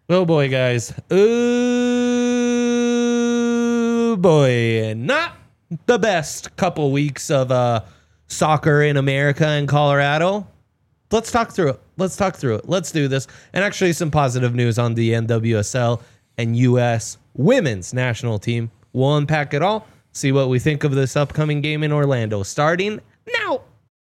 Oh boy, guys. Oh boy. Not the best couple weeks of soccer in America and Colorado. Let's talk through it. Let's do this. And actually some positive news on the NWSL and U.S. women's national team. We'll unpack it all. See what we think of this upcoming game in Orlando. Starting now.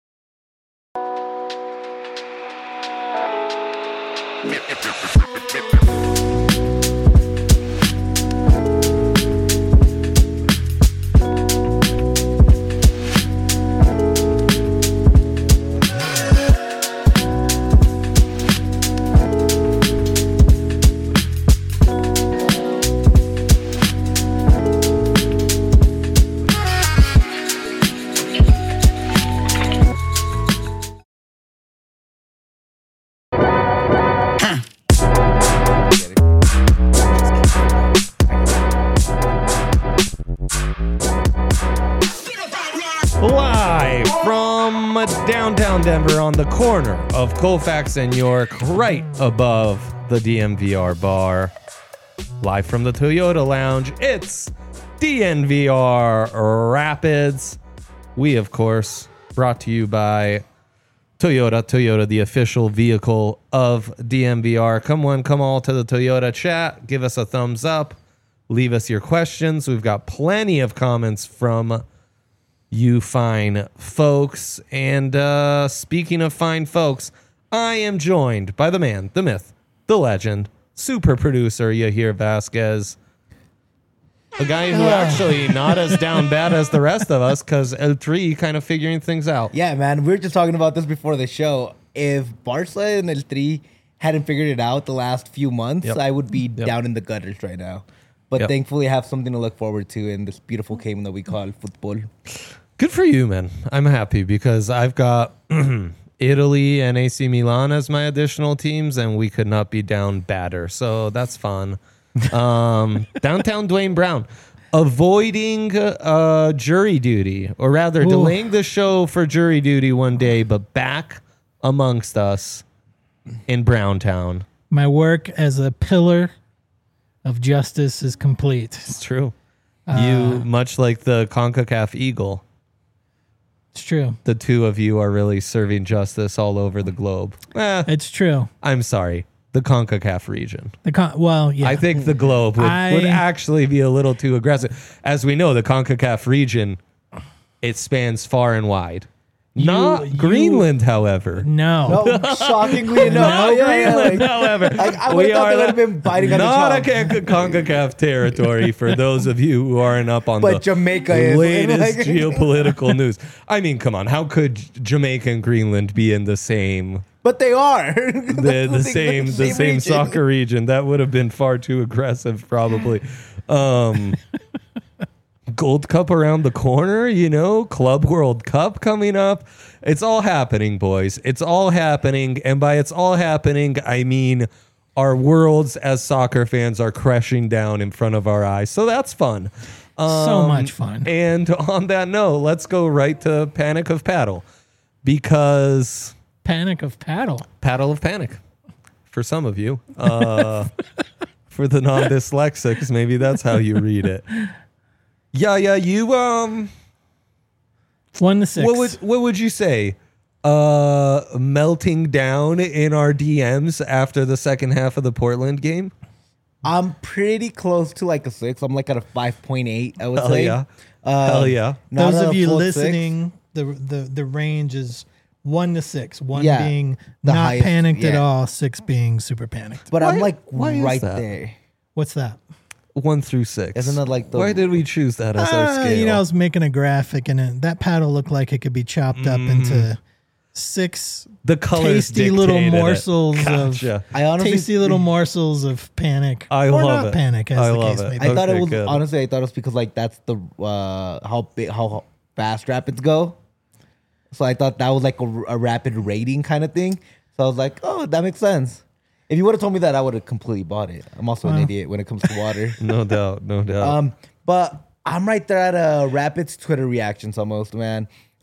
Live from downtown Denver on the corner of Colfax and York, right above the DNVR bar. Live from the Toyota Lounge, it's DNVR Rapids. We, of course, brought to you by Toyota. Toyota, the official vehicle of DNVR. Come one, come all to the Toyota chat. Give us a thumbs up. Leave us your questions. We've got plenty of comments from you fine folks. And speaking of fine folks, I am joined by the man, the myth, the legend, super producer Yahir Vasquez. A guy who actually not as down bad as the rest of us, because El3 kind of figuring things out. Yeah, man. We were just talking about this before the show. If Barca and El Tri hadn't figured it out the last few months, I would be down in the gutters right now. But thankfully, I have something to look forward to in this beautiful game that we call football. Good for you, man. I'm happy because I've got Italy and AC Milan as my additional teams, and we could not be down badder. So that's fun. Downtown Dwayne Brown avoiding jury duty, or rather delaying the show for jury duty one day, but back amongst us in Browntown. My work as a pillar of justice is complete. It's true. You, much like the CONCACAF Eagle, it's true. the two of you are really serving justice all over the globe. It's true. I'm sorry. The CONCACAF region. I think the globe would actually be a little too aggressive. As we know, the CONCACAF region, it spans far and wide. Not Greenland, however. No, shockingly enough. Greenland, however. I would have thought they would have been biting on the not chalk. a CONCACAF territory for those of you who aren't up on But the Jamaica is. latest geopolitical news. I mean, come on. How could Jamaica and Greenland be in the same... But they are. the same region. soccer region? That would have been far too aggressive, probably. Gold Cup around the corner, Club World Cup coming up. It's all happening, boys. It's all happening. And by it's all happening, I mean our worlds as soccer fans are crashing down in front of our eyes. So that's fun. So much fun. And on that note, let's go right to Panic of Paddle. Because... Panic of Paddle. Paddle of Panic. For some of you. For the non-dyslexics, maybe that's how you read it. Yeah, you 1-6. What would you say? Melting down in our DMs after the second half of the Portland game? I'm pretty close to like a 6. I'm like at a 5.8, I would Hell say. yeah. Hell yeah. Not Those a of you full listening, the range is 1-6. 1 Yeah, being the not highest, panicked at yeah. all, 6 being super panicked. But I'm like why is right that? there. What's that? 1 through 6. Isn't that like the... Why did we choose that as our scale? I was making a graphic, and that paddle looked like it could be chopped up into 6 the colors tasty little dictated it. morsels Gotcha. of I honestly tasty little morsels of panic. I or love not it. panic, as I the love case it. may be. I thought it Okay, was... good. Honestly, I thought it was because like that's the... how fast rapids go. So I thought that was like a rapid rating kind of thing. So I was like, oh, that makes sense. If you would have told me that, I would have completely bought it. I'm also an idiot when it comes to water. No doubt. But I'm right there at a Rapids Twitter reactions almost, man.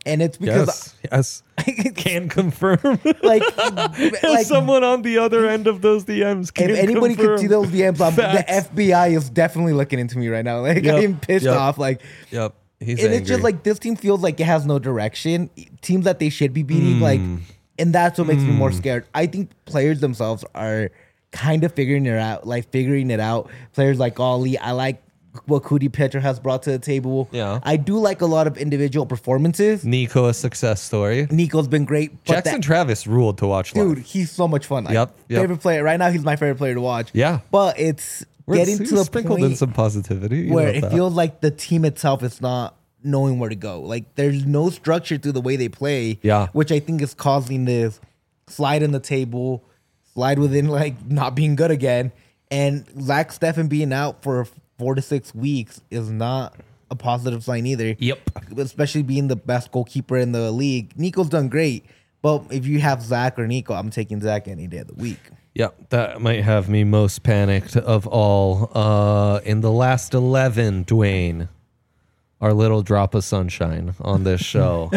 And it's because Yes. Can confirm. like Someone on the other end of those DMs can if anybody confirm. could see those DMs, the Facts. FBI is definitely looking into me right now. Like Yep, I'm pissed yep. off. Like, Yep. He's and it's just angry. like this team feels like it has no direction. Teams that they should be beating, like, and that's what makes me more scared. I think players themselves are kind of figuring it out. Players like Ollie, I like what Cootie Pitcher has brought to the table. Yeah. I do like a lot of individual performances. Nico, a success story. Nico's been great. But Jackson Travis ruled to watch live. dude, he's so much fun. Like, Yep. Favorite player. Right now, he's my favorite player to watch. Yeah. But it's getting to the sprinkled in point some positivity. You where know it that. feels like the team itself is not knowing where to go. Like there's no structure to the way they play. Yeah. Which I think is causing this slide in the table, slide within like not being good again. And Zach Steffen being out for 4 to 6 weeks is not a positive sign either. Yep. Especially being the best goalkeeper in the league. Nico's done great. But if you have Zach or Nico, I'm taking Zach any day of the week. Yep, that might have me most panicked of all. In the last 11, Dwayne, our little drop of sunshine on this show.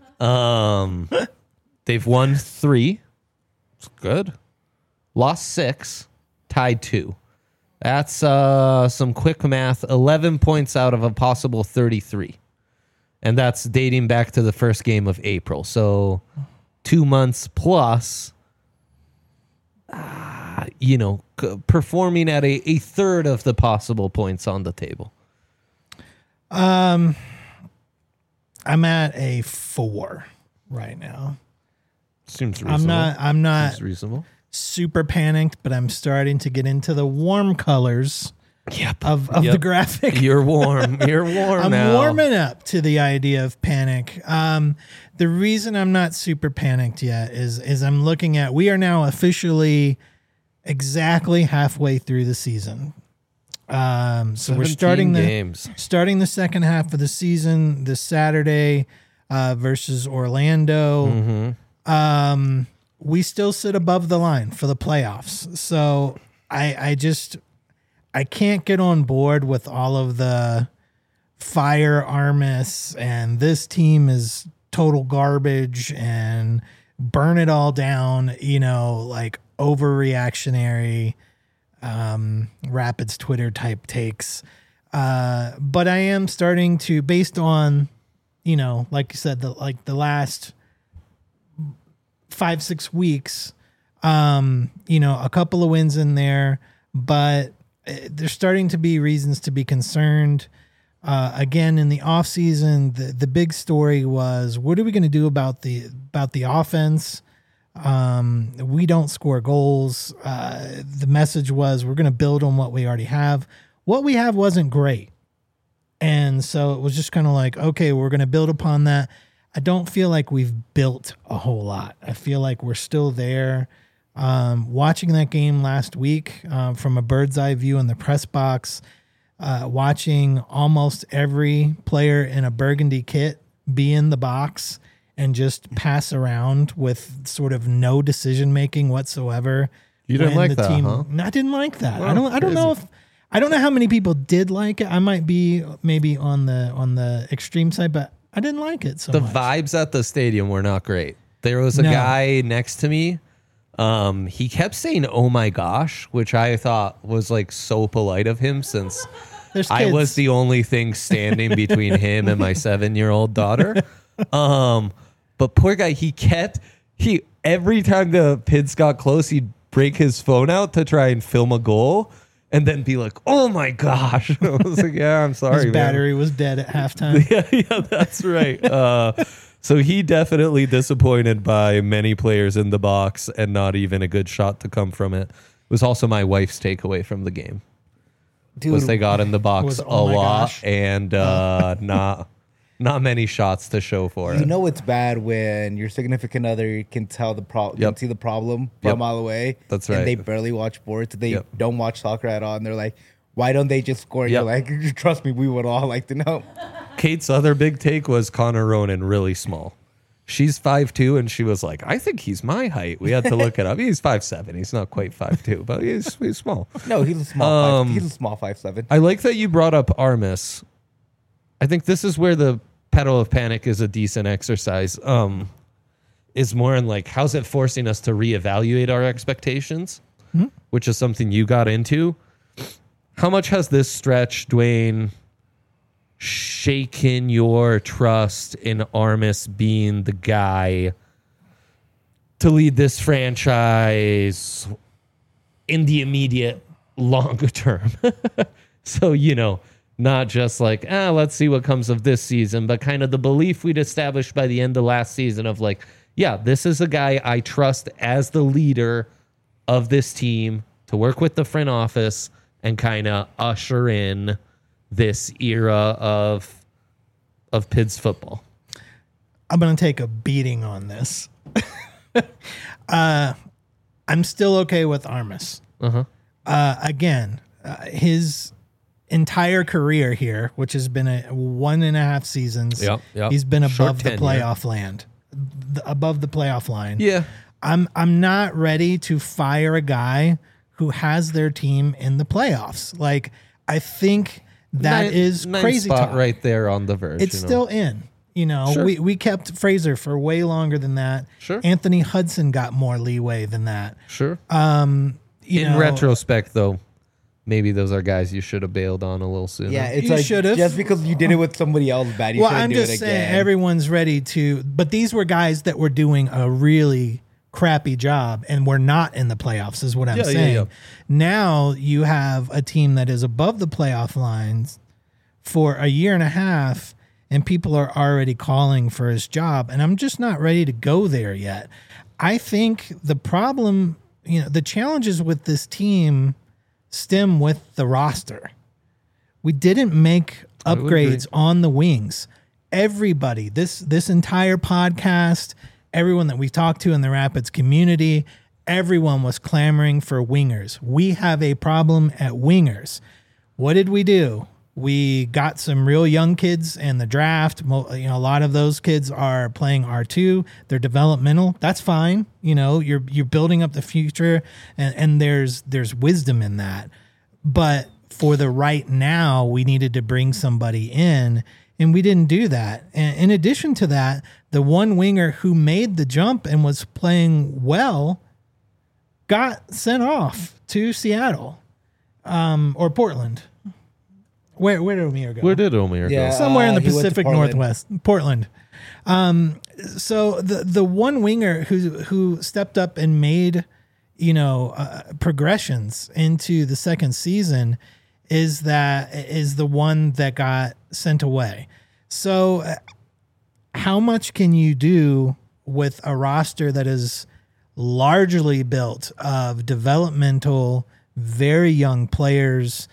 They've won 3. It's good. Lost 6, tied 2. That's some quick math. 11 points out of a possible 33. And that's dating back to the first game of April. So 2 months plus, performing at a third of the possible points on the table. I'm at a 4 right now. Seems reasonable. I'm not Seems reasonable. super panicked, but I'm starting to get into the warm colors Yep. of the graphic. You're warm. You're warm I'm now. warming up to the idea of panic. The reason I'm not super panicked yet is I'm looking at, we are now officially exactly halfway through the season. So we're 17 games. starting the second half of the season this Saturday versus Orlando. We still sit above the line for the playoffs. So I can't get on board with all of the fire Armis and this team is total garbage and burn it all down, like overreactionary Rapids Twitter type takes. But I am starting to, based on, like you said, the last 5-6 weeks, a couple of wins in there, but there's starting to be reasons to be concerned. Again, in the offseason, the big story was, what are we going to do about the offense? We don't score goals. The message was, we're going to build on what we already have. What we have wasn't great. And so it was just kind of like, okay, we're going to build upon that. I don't feel like we've built a whole lot. I feel like we're still there. Watching that game last week from a bird's eye view in the press box, watching almost every player in a burgundy kit be in the box and just pass around with sort of no decision making whatsoever. You didn't when like that, huh? No, I didn't like that. Well, I don't know I don't know how many people did like it. I might be maybe on the extreme side, but I didn't like it so The much. vibes at the stadium were not great. There was a No. guy next to me. He kept saying, "Oh my gosh," which I thought was like so polite of him, since There's I was kids. the only thing standing between him and my 7-year-old daughter. But poor guy, he every time the Pids got close, he'd break his phone out to try and film a goal and then be like, "Oh my gosh." I was like, "Yeah, I'm sorry, His man." battery was dead at halftime. Yeah, that's right. So he definitely disappointed by many players in the box and not even a good shot to come from it. It was also my wife's takeaway from the game. Dude, Was they got in the box Was, a "Oh my lot gosh." and not many shots to show for it. you know it's bad when your significant other can tell the problem, Yep. can see the problem from Yep. a mile away. That's And right. they barely watch sports. They Yep. don't watch soccer at all. And they're like, why don't they just score? And Yep. you're like, trust me, we would all like to know. Kate's other big take was Connor Ronan really small. She's 5'2", and she was like, "I think he's my height." We had to look it up. He's 5'7". He's not quite 5'2", but he's small. No, he's a small he's a small 5'7". I like that you brought up Armis. I think this is where the Pedal of Panic is a decent exercise. Is more in like, how's it forcing us to reevaluate our expectations, which is something you got into. How much has this stretch, Dwayne, shaken your trust in Armis being the guy to lead this franchise in the immediate longer term? So, not just like, let's see what comes of this season, but kind of the belief we'd established by the end of last season of like, yeah, this is a guy I trust as the leader of this team to work with the front office and kind of usher in this era of Pids football. I'm going to take a beating on this. I'm still okay with Armis. Again, his entire career here, which has been 1.5 seasons, Yep. he's been Short above the tenure. playoff land, above the playoff line. Yeah. I'm not ready to fire a guy who has their team in the playoffs. Like, I think that is Ninth crazy spot talk. right there on the verge. It's still in. Sure. We kept Fraser for way longer than that. Sure. Anthony Hudson got more leeway than that. Sure. In In retrospect, though, maybe those are guys you should have bailed on a little sooner. Yeah, it's You like should've. just because you did it with somebody else bad, you well, shouldn't I'm do just it saying again. everyone's ready to, but these were guys that were doing a really crappy job and were not in the playoffs is what I'm saying. yeah. Now you have a team that is above the playoff lines for a year and a half and people are already calling for his job and I'm just not ready to go there yet. I think the problem, the challenges with this team stem with the roster. We didn't make would agree. upgrades on the wings. Everybody, this entire podcast, everyone that we talked to in the Rapids community, everyone was clamoring for wingers. We have a problem at wingers. What did we do? We got some real young kids in the draft. A lot of those kids are playing R2. They're developmental. That's fine. You're building up the future, and there's wisdom in that. But for the right now, we needed to bring somebody in, and we didn't do that. And in addition to that, the one winger who made the jump and was playing well got sent off to Seattle or Portland. Where did O'Meara go? Where did O'Meara Yeah. go? Somewhere in the he went to Pacific Portland. Northwest, Portland. So the one winger who stepped up and made progressions into the second season is the one that got sent away. So how much can you do with a roster that is largely built of developmental, very young players?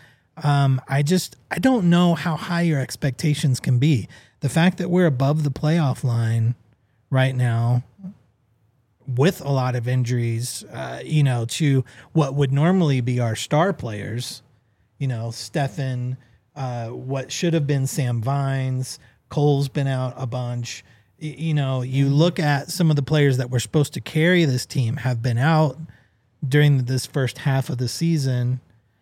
I don't know how high your expectations can be. The fact that we're above the playoff line right now with a lot of injuries, to what would normally be our star players, Stefan, what should have been Sam Vines, Cole's been out a bunch. You look at some of the players that were supposed to carry this team have been out during this first half of the season.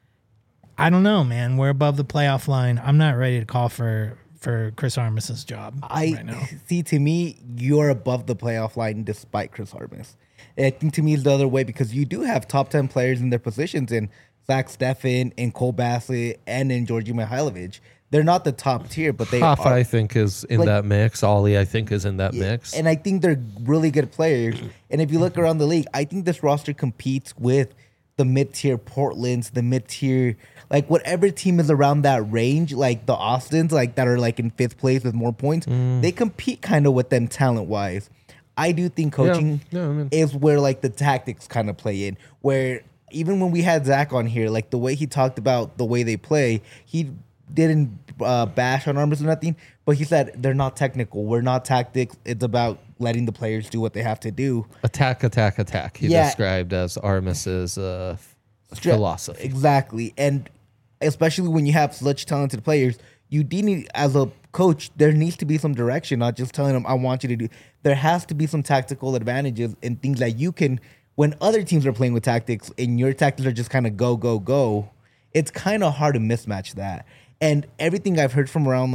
I don't know, man. We're above the playoff line. I'm not ready to call for Chris Armis's job right now. See, to me, you're above the playoff line despite Chris Armis. I think to me it's the other way because you do have top 10 players in their positions in Zach Steffen, in Cole Bassett, and in Georgi Mihailovic. They're not the top tier, but they Hoff, are. I think, is in that mix. Ollie, I think, is in that mix. And I think they're really good players. And if you look around the league, I think this roster competes with the mid-tier Portlands, the mid-tier, like whatever team is around that range, like the Austins, like that are like in 5th place with more points, they compete kind of with them talent-wise. I do think coaching is where like the tactics kind of play in, where even when we had Zach on here, like the way he talked about the way they play, he didn't bash on Armis or nothing, but he said they're not technical. We're not tactics. It's about letting the players do what they have to do. Attack. He described as Armis's philosophy. Exactly. And especially when you have such talented players, you do need, as a coach, there needs to be some direction, not just telling them, I want you to do. There has to be some tactical advantages and things that you can, when other teams are playing with tactics and your tactics are just kind of go, it's kind of hard to mismatch that. And everything I've heard from around like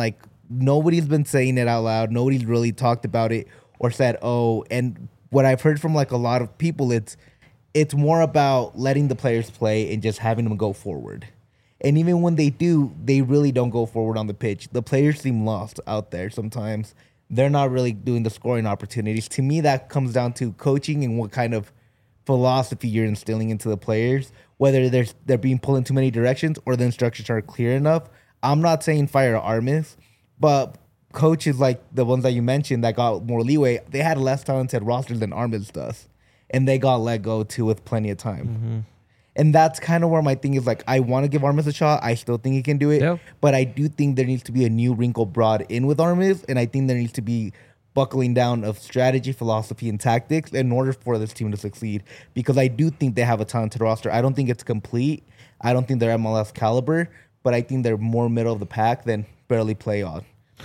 nobody's been saying it out loud. Nobody's really talked about it or said, oh, and what I've heard from like a lot of people, it's more about letting the players play and just having them go forward. And even when they do, they really don't go forward on the pitch. The players seem lost out there sometimes. They're not really doing the scoring opportunities. To me, that comes down to coaching and what kind of philosophy you're instilling into the players, whether they're being pulled in too many directions or the instructions are clear enough. I'm not saying fire Armis, but coaches like the ones that you mentioned that got more leeway, they had a less talented roster than Armis does. And they got let go too with plenty of time. Mm-hmm. And that's kind of where my thing is, like, I want to give Armis a shot. I still think he can do it. Yep. But I do think there needs to be a new wrinkle brought in with Armis. And I think there needs to be buckling down of strategy, philosophy, and tactics in order for this team to succeed. Because I do think they have a talented roster. I don't think it's complete. I don't think they're MLS caliber. But I think they're more middle of the pack than barely playoffs.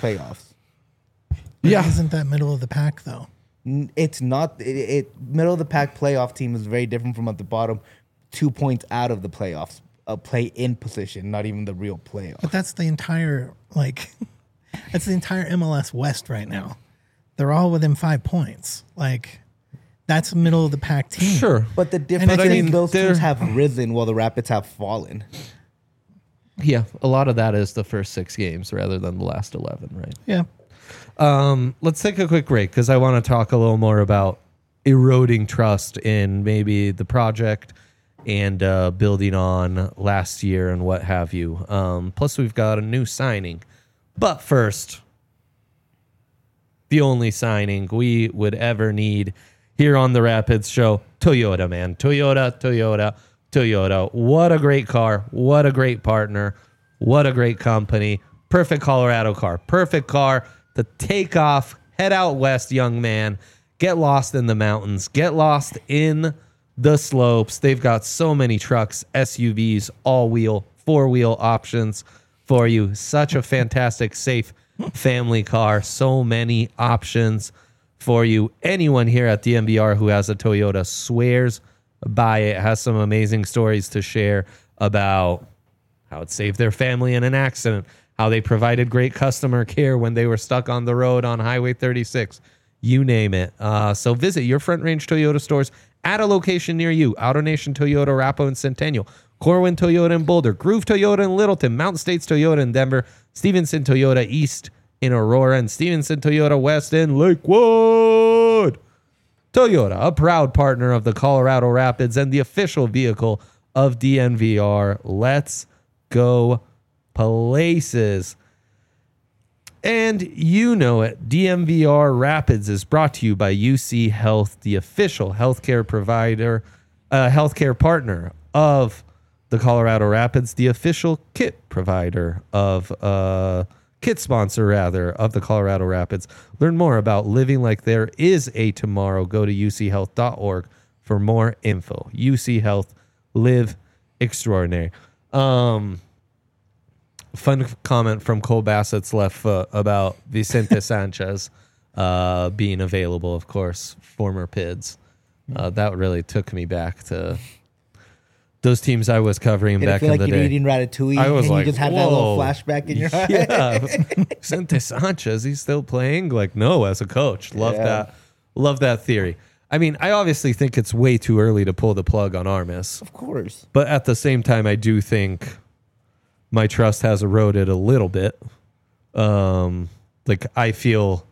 Yeah. Isn't that middle of the pack, though? It's not. Middle of the pack playoff team is very different from at the bottom. 2 points out of the playoffs, a play-in position, not even the real playoff. But that's the entire, that's the entire MLS West right now. They're all within 5 points. Like, that's a middle of the pack team. Sure. But the difference is those teams have risen while the Rapids have fallen. Yeah, a lot of that is the first 6 games rather than the last 11, right? Yeah. Let's take a quick break because I want to talk a little more about eroding trust in maybe the project and building on last year and what have you. Plus, we've got a new signing. But first, the only signing we would ever need here on the Rapids show, Toyota, man. Toyota. What a great car. What a great partner. What a great company. Perfect Colorado car. Perfect car to take off, head out west, young man. Get lost in the mountains. Get lost in the slopes. They've got so many trucks, SUVs, all-wheel, 4-wheel options for you. Such a fantastic, safe family car. So many options for you. Anyone here at DNVR who has a Toyota swears by it, has some amazing stories to share about how it saved their family in an accident, how they provided great customer care when they were stuck on the road on Highway 36. You name it. So visit your Front Range Toyota stores at a location near you. AutoNation Toyota, Arapahoe and Centennial. Corwin Toyota in Boulder. Groove Toyota in Littleton. Mountain States Toyota in Denver. Stevenson Toyota East in Aurora. And Stevenson Toyota West in Lakewood. Toyota, a proud partner of the Colorado Rapids and the official vehicle of DNVR. Let's go places. And you know it, DNVR Rapids is brought to you by UC Health, the official healthcare provider, healthcare partner of the Colorado Rapids, the official kit provider of, kit sponsor rather, of the Colorado Rapids. Learn more about living like there is a tomorrow. Go to uchealth.org for more info. UC Health, live extraordinary. Fun comment from Cole Bassett's left foot about Vicente Sanchez being available, of course, former PIDS. That really took me back to those teams I was covering back in the day. You're eating ratatouille I was and like, you just had that little flashback in your eye. Yeah, Vicente Sanchez, he's still playing? Like, no, as a coach. Love that theory. I mean, I obviously think it's way too early to pull the plug on Armis. Of course. But at the same time, I do think my trust has eroded a little bit. I feel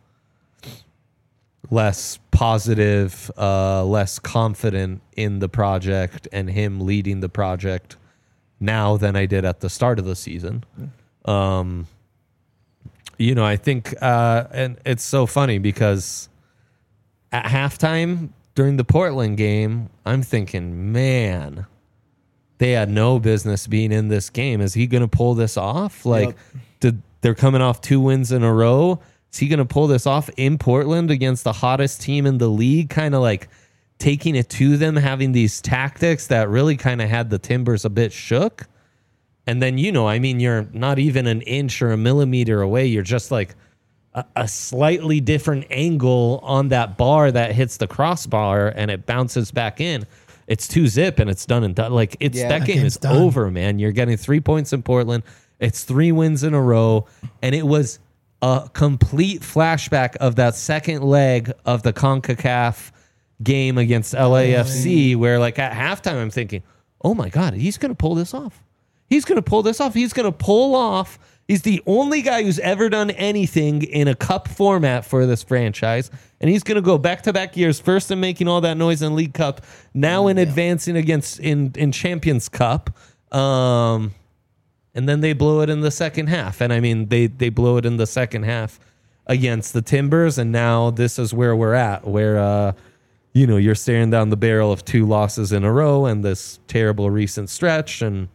less positive, less confident in the project and him leading the project now than I did at the start of the season. I think, and it's so funny because at halftime during the Portland game, I'm thinking, man, they had no business being in this game. Is he going to pull this off? They're coming off 2 wins in a row. Is he going to pull this off in Portland against the hottest team in the league? Kind of like taking it to them, having these tactics that really kind of had the Timbers a bit shook. And then, you're not even an inch or a millimeter away. You're just like a slightly different angle on that bar that hits the crossbar and it bounces back in. It's 2-0 and it's done and done. That game is over, man. You're getting 3 points in Portland. It's 3 wins in a row. And it was a complete flashback of that second leg of the CONCACAF game against LAFC, where like at halftime I'm thinking, oh my God, he's going to pull this off. He's going to pull this off. He's going to pull off. He's the only guy who's ever done anything in a cup format for this franchise. And he's going to go back-to-back years, first in making all that noise in League Cup, now in advancing against in Champions Cup. And then they blow it in the second half. And I mean, they blow it in the second half against the Timbers. And now this is where we're at, where, you're staring down the barrel of 2 losses in a row and this terrible recent stretch. And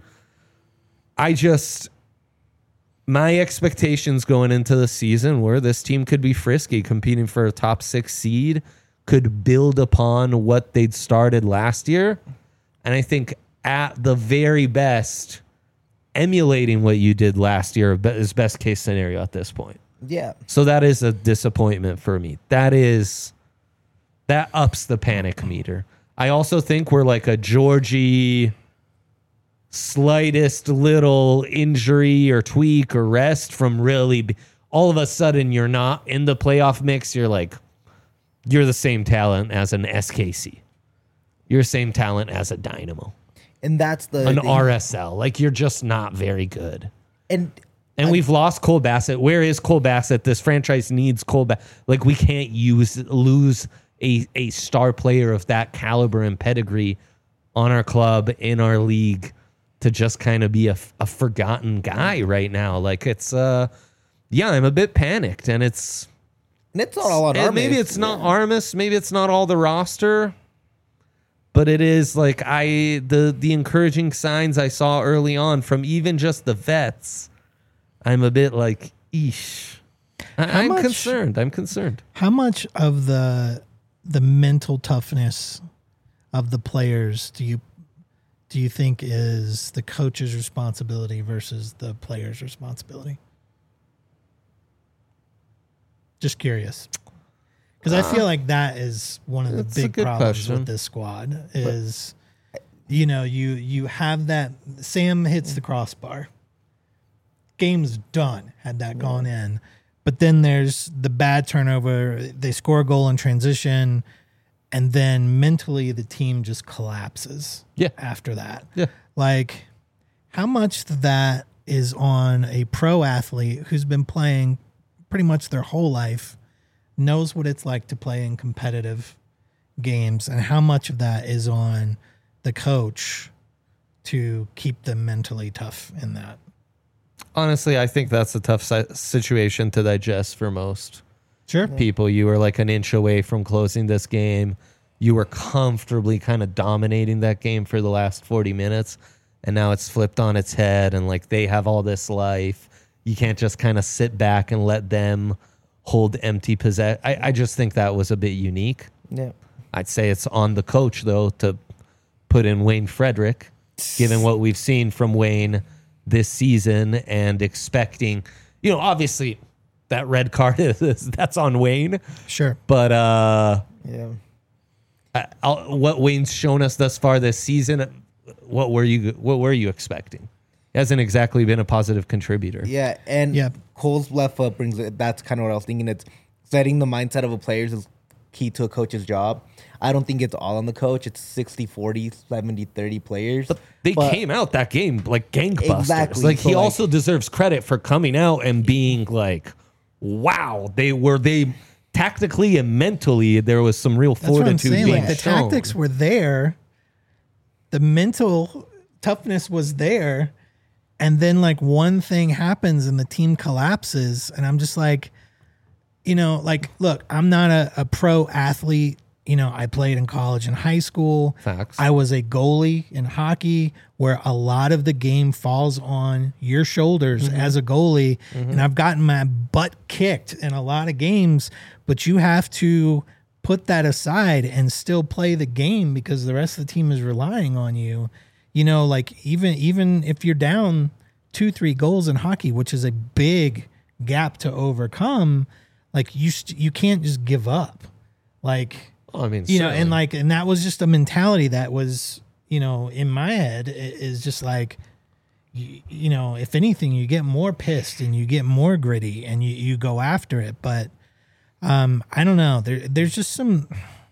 my expectations going into the season were this team could be frisky, competing for a top 6 seed, could build upon what they'd started last year. And I think at the very best, emulating what you did last year is best case scenario at this point. Yeah. So that is a disappointment for me. That ups the panic meter. I also think we're like a Georgie slightest little injury or tweak or rest from really all of a sudden you're not in the playoff mix. You're the same talent as an SKC. You're the same talent as a Dynamo. And that's an RSL. Like, you're just not very good. And we've lost Cole Bassett. Where is Cole Bassett? This franchise needs Cole Bassett. Like, we can't lose a star player of that caliber and pedigree on our club, in our league, to just kind of be a forgotten guy right now. Like, it's, I'm a bit panicked, and it's not all on Armas. Maybe it's not Armas. Maybe it's not all the roster, but it is like the encouraging signs I saw early on from even just the vets. I'm a bit like, eesh. I'm concerned. I'm concerned. How much of the mental toughness of the players do you think is the coach's responsibility versus the player's responsibility? Just curious. Because I feel like that is one of the big problems with this squad is, you have that, Sam hits the crossbar. Game's done, had that gone in. But then there's the bad turnover. They score a goal in transition, and then mentally the team just collapses after that. Yeah. Like, how much that is on a pro athlete who's been playing pretty much their whole life, knows what it's like to play in competitive games, and how much of that is on the coach to keep them mentally tough in that? Honestly, I think that's a tough situation to digest for most people. You were like an inch away from closing this game. You were comfortably kind of dominating that game for the last 40 minutes, and now it's flipped on its head, and like they have all this life. You can't just kind of sit back and let them hold empty possession. I just think that was a bit unique. Yeah. I'd say it's on the coach, though, to put in Wayne Frederick, given what we've seen from Wayne this season, and expecting, obviously that red card that's on Wayne. Sure. But what Wayne's shown us thus far this season, what were you expecting? He hasn't exactly been a positive contributor. Yeah, and Cole's left foot brings it. That's kind of what I was thinking. It's setting the mindset of a player is key to a coach's job. I don't think it's all on the coach. It's 60-40, 70-30 players. But they came out that game like gangbusters. Exactly. Like, he also deserves credit for coming out and being like, wow, they tactically and mentally, there was some real fortitude being Like, the shown. tactics were there. The mental toughness was there. And then like one thing happens and the team collapses. And I'm just like, look, I'm not a pro athlete. I played in college and high school. Facts. I was a goalie in hockey, where a lot of the game falls on your shoulders as a goalie. And I've gotten my butt kicked in a lot of games, but you have to put that aside and still play the game because the rest of the team is relying on you. Like even if you're down 2-3 goals in hockey, which is a big gap to overcome, like you can't just give up. Like, I mean, and that was just a mentality that was, in my head is just like, you know, if anything, you get more pissed and you get more gritty and you go after it. But I don't know. There's just some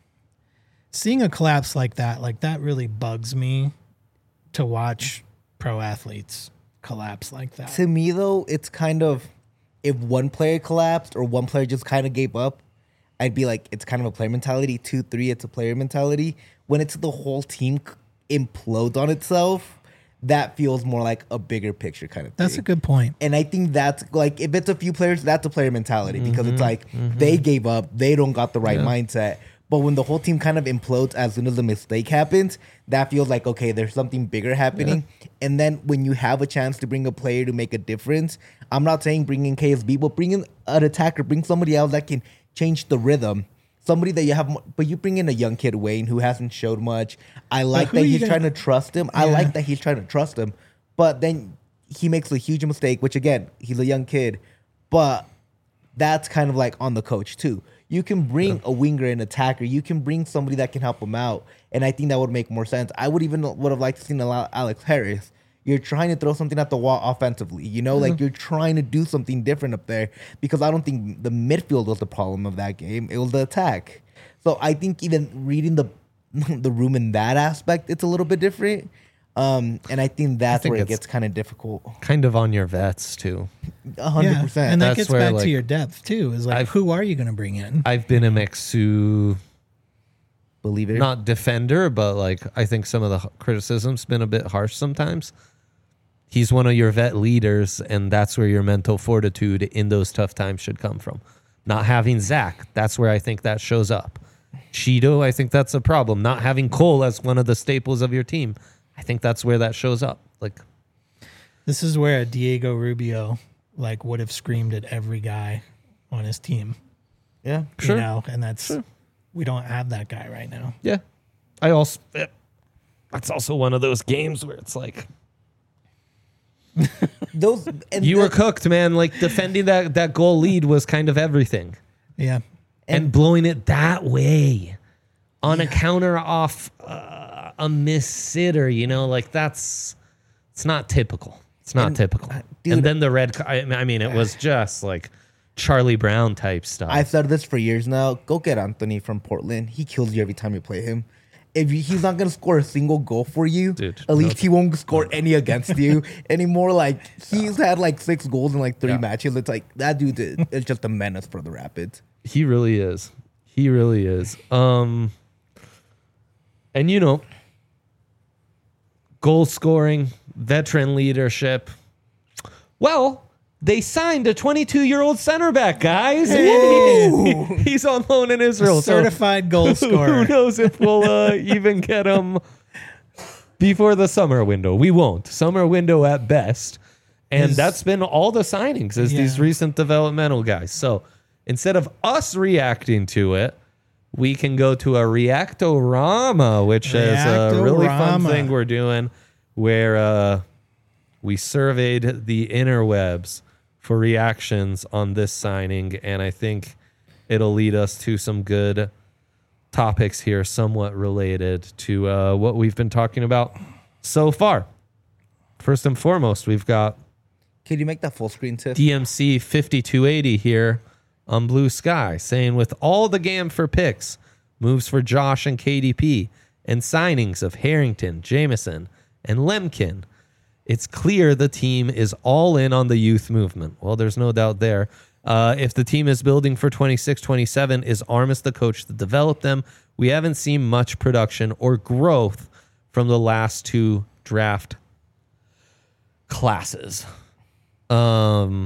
seeing a collapse like that really bugs me to watch pro athletes collapse like that. To me, though, it's kind of if one player collapsed or one player just kind of gave up, I'd be like, it's kind of a player mentality. 2, 3, it's a player mentality. When it's the whole team implodes on itself, that feels more like a bigger picture kind of thing. That's a good point. And I think that's like, if it's a few players, that's a player mentality because it's like they gave up, they don't got the right mindset. But when the whole team kind of implodes as soon as a mistake happens, that feels like, okay, there's something bigger happening. And then when you have a chance to bring a player to make a difference, I'm not saying bring in KSB, but bring in an attacker, bring somebody else that can change the rhythm. Somebody that you have, but you bring in a young kid, Wayne, who hasn't showed much. I like that he's trying to trust him. I like that he's trying to trust him. But then he makes a huge mistake, which again, he's a young kid. But that's kind of like on the coach too. You can bring a winger and attacker. You can bring somebody that can help him out. And I think that would make more sense. I would have liked to see Alex Harris. You're trying to throw something at the wall offensively. You know, like you're trying to do something different up there because I don't think the midfield was the problem of that game. It was the attack. So I think even reading the room in that aspect, it's a little bit different. And I think that's where it gets kind of difficult. Kind of on your vets too. 100%. And that That's gets where, back like, to your depth too. Is like, who are you going to bring in? I've been a Mixu, Believe it. not defender, but like I think some of the criticism's been a bit harsh sometimes. He's one of your vet leaders, and that's where your mental fortitude in those tough times should come from. Not having Zach, that's where I think that shows up. Cheeto, I think that's a problem. Not having Cole as one of the staples of your team, I think that's where that shows up. Like, This is where a Diego Rubio like would have screamed at every guy on his team. Yeah. Sure. You know, and that's we don't have that guy right now. yeah, that's also one of those games where it's like, Those and you were cooked, man. Like defending that goal lead was kind of everything. Yeah. And blowing it that way on a counter off a miss sitter, you know, like it's not typical. It's not typical. dude, and then the red, I mean, it was just like Charlie Brown type stuff. I've said this for years now. Go get Anthony from Portland. He kills you every time you play him. He's not gonna score a single goal for you, Dude, at least he won't score any against you anymore. Like he's had like 6 goals in like 3 matches. It's like that dude is just a menace for the Rapids. He really is. He really is. And you know, goal scoring, veteran leadership. Well, they signed a 22-year-old center back, guys. He's on loan in Israel. Certified goal scorer. Who knows if we'll even get him before the summer window. We won't. Summer window at best. And that's been all the signings is these recent developmental guys. So instead of us reacting to it, we can go to a Reactorama, which is a really fun thing we're doing where we surveyed the interwebs for reactions on this signing, and I think it'll lead us to some good topics here, somewhat related to what we've been talking about so far. First and foremost, we've got Can you make that full screen, Tiff? DMC 5280 here on Blue Sky, saying with all the GAM for picks, moves for Josh and KDP, and signings of Harrington, Jameson, and Lemkin, it's clear the team is all in on the youth movement. Well, there's no doubt there. If the team is building for 26-27, is Armas the coach to develop them? We haven't seen much production or growth from the last 2 draft classes. I'd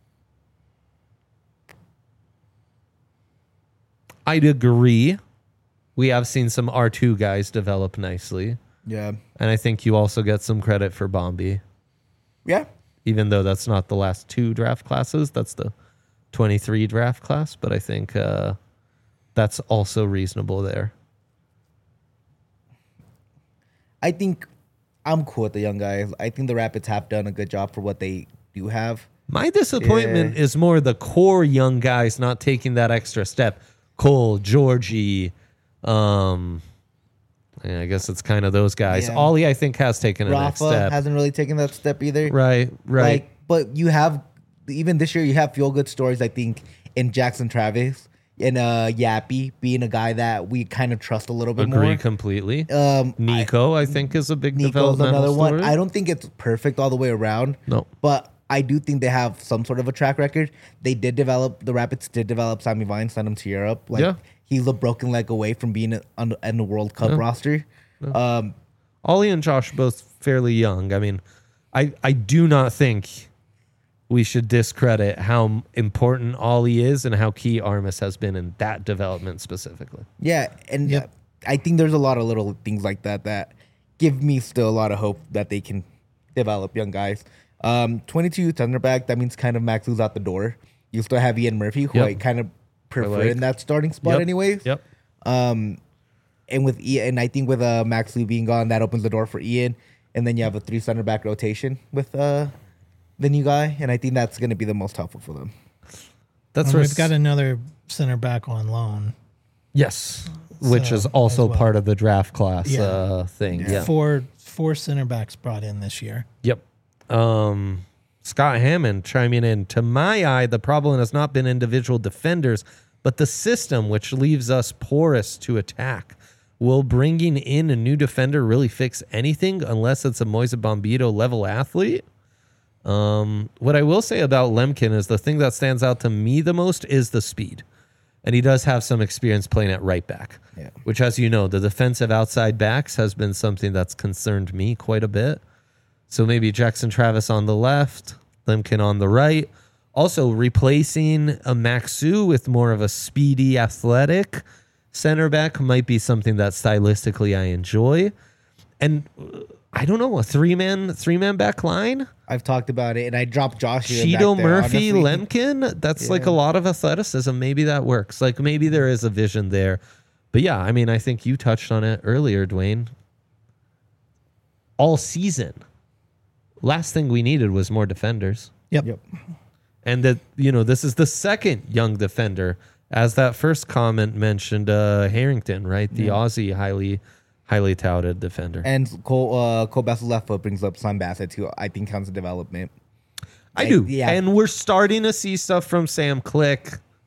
agree. We have seen some R2 guys develop nicely. Yeah. And I think you also get some credit for Bombi. Yeah. Even though that's not the last 2 draft classes. That's the 23 draft class. But I think that's also reasonable there. I think I'm cool with the young guys. I think the Rapids have done a good job for what they do have. My disappointment is more the core young guys not taking that extra step. Cole, Georgie, Yeah, I guess it's kind of those guys. Yeah. Ollie, I think, has taken a next Rafa step. hasn't really taken that step either. Right. Like, but you have, even this year, you have feel good stories, I think, in Jackson Travis and Yappy being a guy that we kind of trust a little bit Agree more. completely. Um, Nico, I think, is a big Nico's developmental another story. one. I don't think it's perfect all the way around. No. But I do think they have some sort of a track record. The Rapids did develop Sammy Vine, send him to Europe. Like, Yeah. he's a broken leg away from being in the World Cup roster. Ollie and Josh both fairly young. I mean, I do not think we should discredit how important Ollie is and how key Armis has been in that development specifically. Yeah, and Yep. I think there's a lot of little things like that give me still a lot of hope that they can develop young guys. 22 center back, that means kind of Max Lou's out the door. You still have Ian Murphy, who Yep. I kind of prefer like. in that starting spot Yep. anyways. Yep. And with Ian, I think with Max Lou being gone, that opens the door for Ian. And then you have a 3 center back rotation with the new guy, and I think that's going to be the most helpful for them. That's And where we've got another center back on loan. yes, which So, is also as well. part of the draft class Yeah. thing. Yeah. Four center backs brought in this year. Yep. Scott Hammond chiming in. To my eye, the problem has not been individual defenders, but the system, which leaves us porous to attack. Will bringing in a new defender really fix anything unless it's a Moise Bombito level athlete? What I will say about Lemkin is the thing that stands out to me the most is the speed. And he does have some experience playing at right back, Yeah. which, as you know, the defensive outside backs has been something that's concerned me quite a bit. So maybe Jackson Travis on the left, Lemkin on the right. Also replacing a Maxu with more of a speedy, athletic center back might be something that stylistically I enjoy. And I don't know, a three-man back line? I've talked about it, and I dropped Josh here. Cheeto, back there, Murphy, honestly. Lemkin. That's like a lot of athleticism. Maybe that works. Like maybe there is a vision there. But yeah, I mean, I think you touched on it earlier, Dwayne. All season, last thing we needed was more defenders. Yep. And that, this is the second young defender. As that first comment mentioned, Harrington, right? The Aussie highly touted defender. And Cole Bassel's left foot brings up Sam Bassett, who I think counts as development. I do. Yeah. And we're starting to see stuff from Sam Click.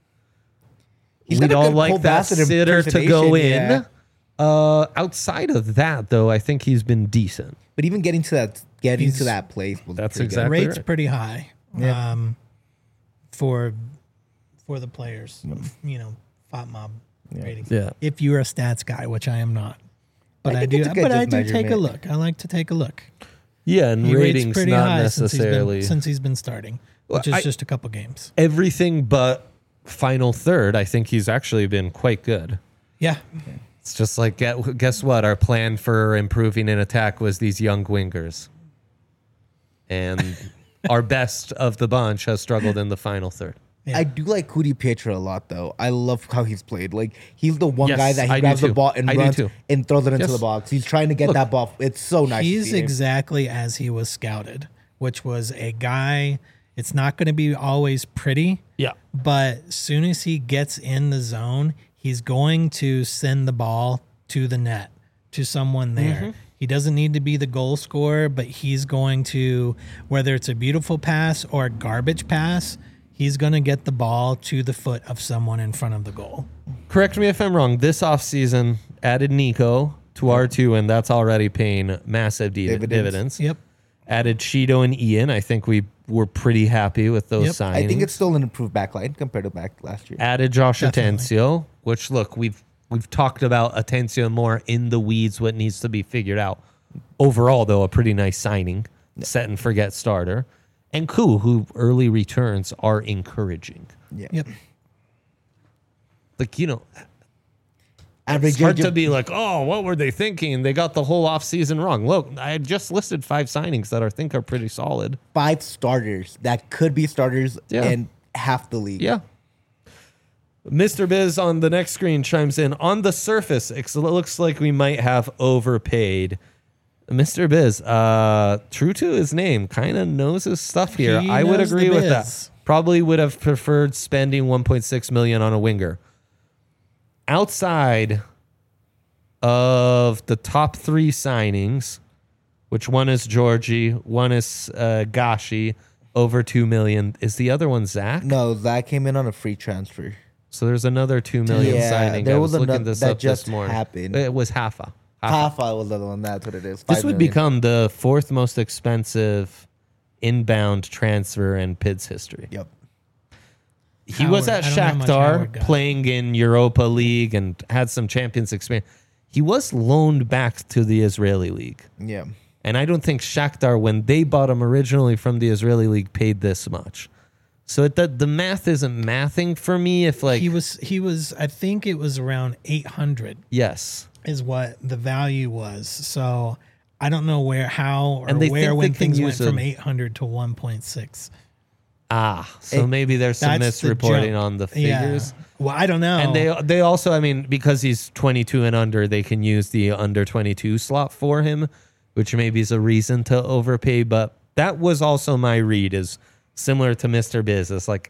He's We'd got a all good like Cole that Bassett sitter to go impersonation, in. yeah. Outside of that, though, I think he's been decent. But even getting to that place was That's pretty exactly Rate's right. pretty high. Yeah. For the players, FOT mob ratings. Yeah. If you're a stats guy, which I am not, but I I think do. it's a good But I just do take a measurement. look. I like to take a look. Yeah, and He rates ratings pretty not high necessarily since he's been starting, which Well, is just a couple games. everything but final third. I think he's actually been quite good. Yeah, It's just like, guess what? Our plan for improving in attack was these young wingers. And our best of the bunch has struggled in the final third. Yeah. I do like Cudi Pietra a lot, though. I love how he's played. Like, he's the one Yes, guy that I he do grabs the too. ball and I do runs too. and throws it into Yes. the box. He's trying to get that ball. It's so nice. to he's see him. exactly as he was scouted, which was a guy. It's not going to be always pretty, Yeah. but as soon as he gets in the zone, he's going to send the ball to the net, to someone there. He doesn't need to be the goal scorer, but he's going to, whether it's a beautiful pass or a garbage pass, he's going to get the ball to the foot of someone in front of the goal. Correct me if I'm wrong. This offseason added Nico to R2, and that's already paying massive dividends. Yep. Added Cheeto and Ian. I think we were pretty happy with those Yep. signings. I think it's still an improved backline compared to back last year. Added Josh Definitely. Atencio, which look, we've talked about Atencio more in the weeds, what needs to be figured out. Overall, though, a pretty nice signing, set and forget starter. And Koo, who early returns are encouraging. Yeah. Yep. Like, Average it's hard age to of be like, oh, what were they thinking? They got the whole offseason wrong. Look, I just listed 5 signings that I think are pretty solid. 5 starters that could be starters Yeah. in half the league. Yeah. Mr. Biz on the next screen chimes in. On the surface, it looks like we might have overpaid. Mr. Biz, true to his name, kind of knows his stuff here. He I would knows the agree with biz. that. Probably would have preferred spending $1.6 million on a winger. Outside of the top 3 signings, which one is Georgie, one is Gashi, over $2 million. Is the other one Zach? No, Zach came in on a free transfer. So there's another $2 million signing. There I was looking another this that up just this morning. happened. It was Haifa. Haifa was the other one. That's what it is. This 5 would million. become the 4th most expensive inbound transfer in PID's history. Yep. He was at I don't know how much Shakhtar Howard got. playing in Europa League and had some Champions experience. He was loaned back to the Israeli League. Yeah. And I don't think Shakhtar, when they bought him originally from the Israeli League, paid this much. So the math isn't mathing for me. If like he was. I think it was around 800 yes, is what the value was. So I don't know how or And they where think when they can things went use from a- 800 to 1.6. so maybe there's some That's the misreporting jump. on the Yeah. figures. Well, I don't know. And they also, I mean, because he's 22 and under, they can use the under 22 slot for him, which maybe is a reason to overpay. But that was also my read, is similar to Mr. Biz. It's like,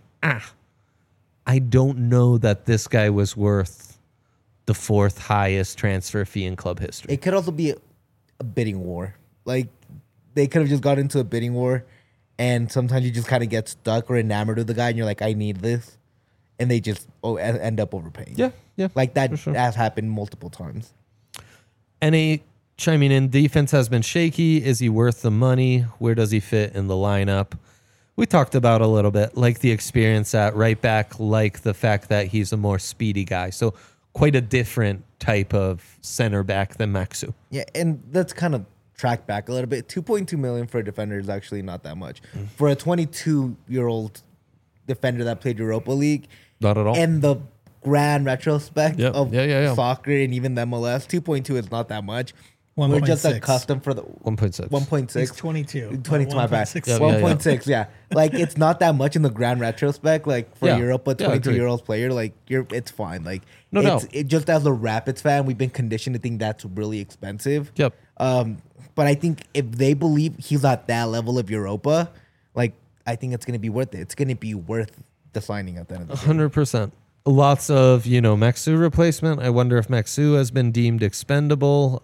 I don't know that this guy was worth the 4th highest transfer fee in club history. It could also be a bidding war. Like, they could have just got into a bidding war, and sometimes you just kind of get stuck or enamored with the guy, and you're like, I need this. And they just end up overpaying. Yeah. Like, that for sure. has happened multiple times. NA chiming in, defense has been shaky. Is he worth the money? Where does he fit in the lineup? We talked about a little bit, like the experience at right back, like the fact that he's a more speedy guy. So quite a different type of center back than Maxu. Yeah, and let's kind of track back a little bit. 2.2 million for a defender is actually not that much. For a 22-year-old defender that played Europa League, Not at all. and the grand retrospect Yep. of Yeah. soccer and even the MLS, 2.2 is not that much. 1.6. We're just accustomed for the 1.6. 1.6. He's 22. 22, my bad. 1.6. Yeah, 1.6, yeah. Like, it's not that much in the grand retrospect. Like, for Yeah. Europa, Yeah, agreed. 22-year-old player, like, it's fine. Like, No it's, doubt. it just as a Rapids fan, we've been conditioned to think that's really expensive. Yep. But I think if they believe he's at that level of Europa, like, I think it's going to be worth it. It's going to be worth the signing at the end of the day. 100%. Lots of, Maxu replacement. I wonder if Maxu has been deemed expendable.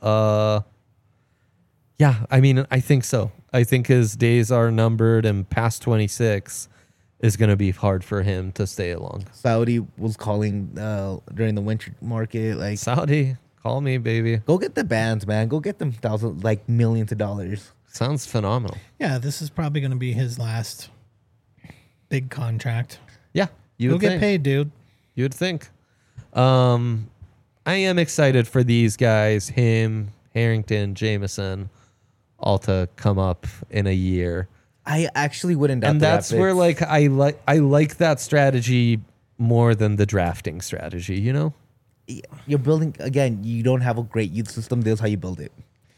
Yeah, I mean, I think so. I think his days are numbered, and past 26 is going to be hard for him to stay along. Saudi was calling during the winter market, like, Saudi, call me, baby. go get the bands, man. Go get them millions of dollars. Sounds phenomenal. Yeah, this is probably going to be his last big contract. Yeah, you He'll would get think. paid, dude. You would think. I am excited for these guys, him, Harrington, Jameson, all to come up in a year. I actually wouldn't doubt And the that's Rapids. where like I like that strategy more than the drafting strategy, You're building, again, you don't have a great youth system. This is how you build it.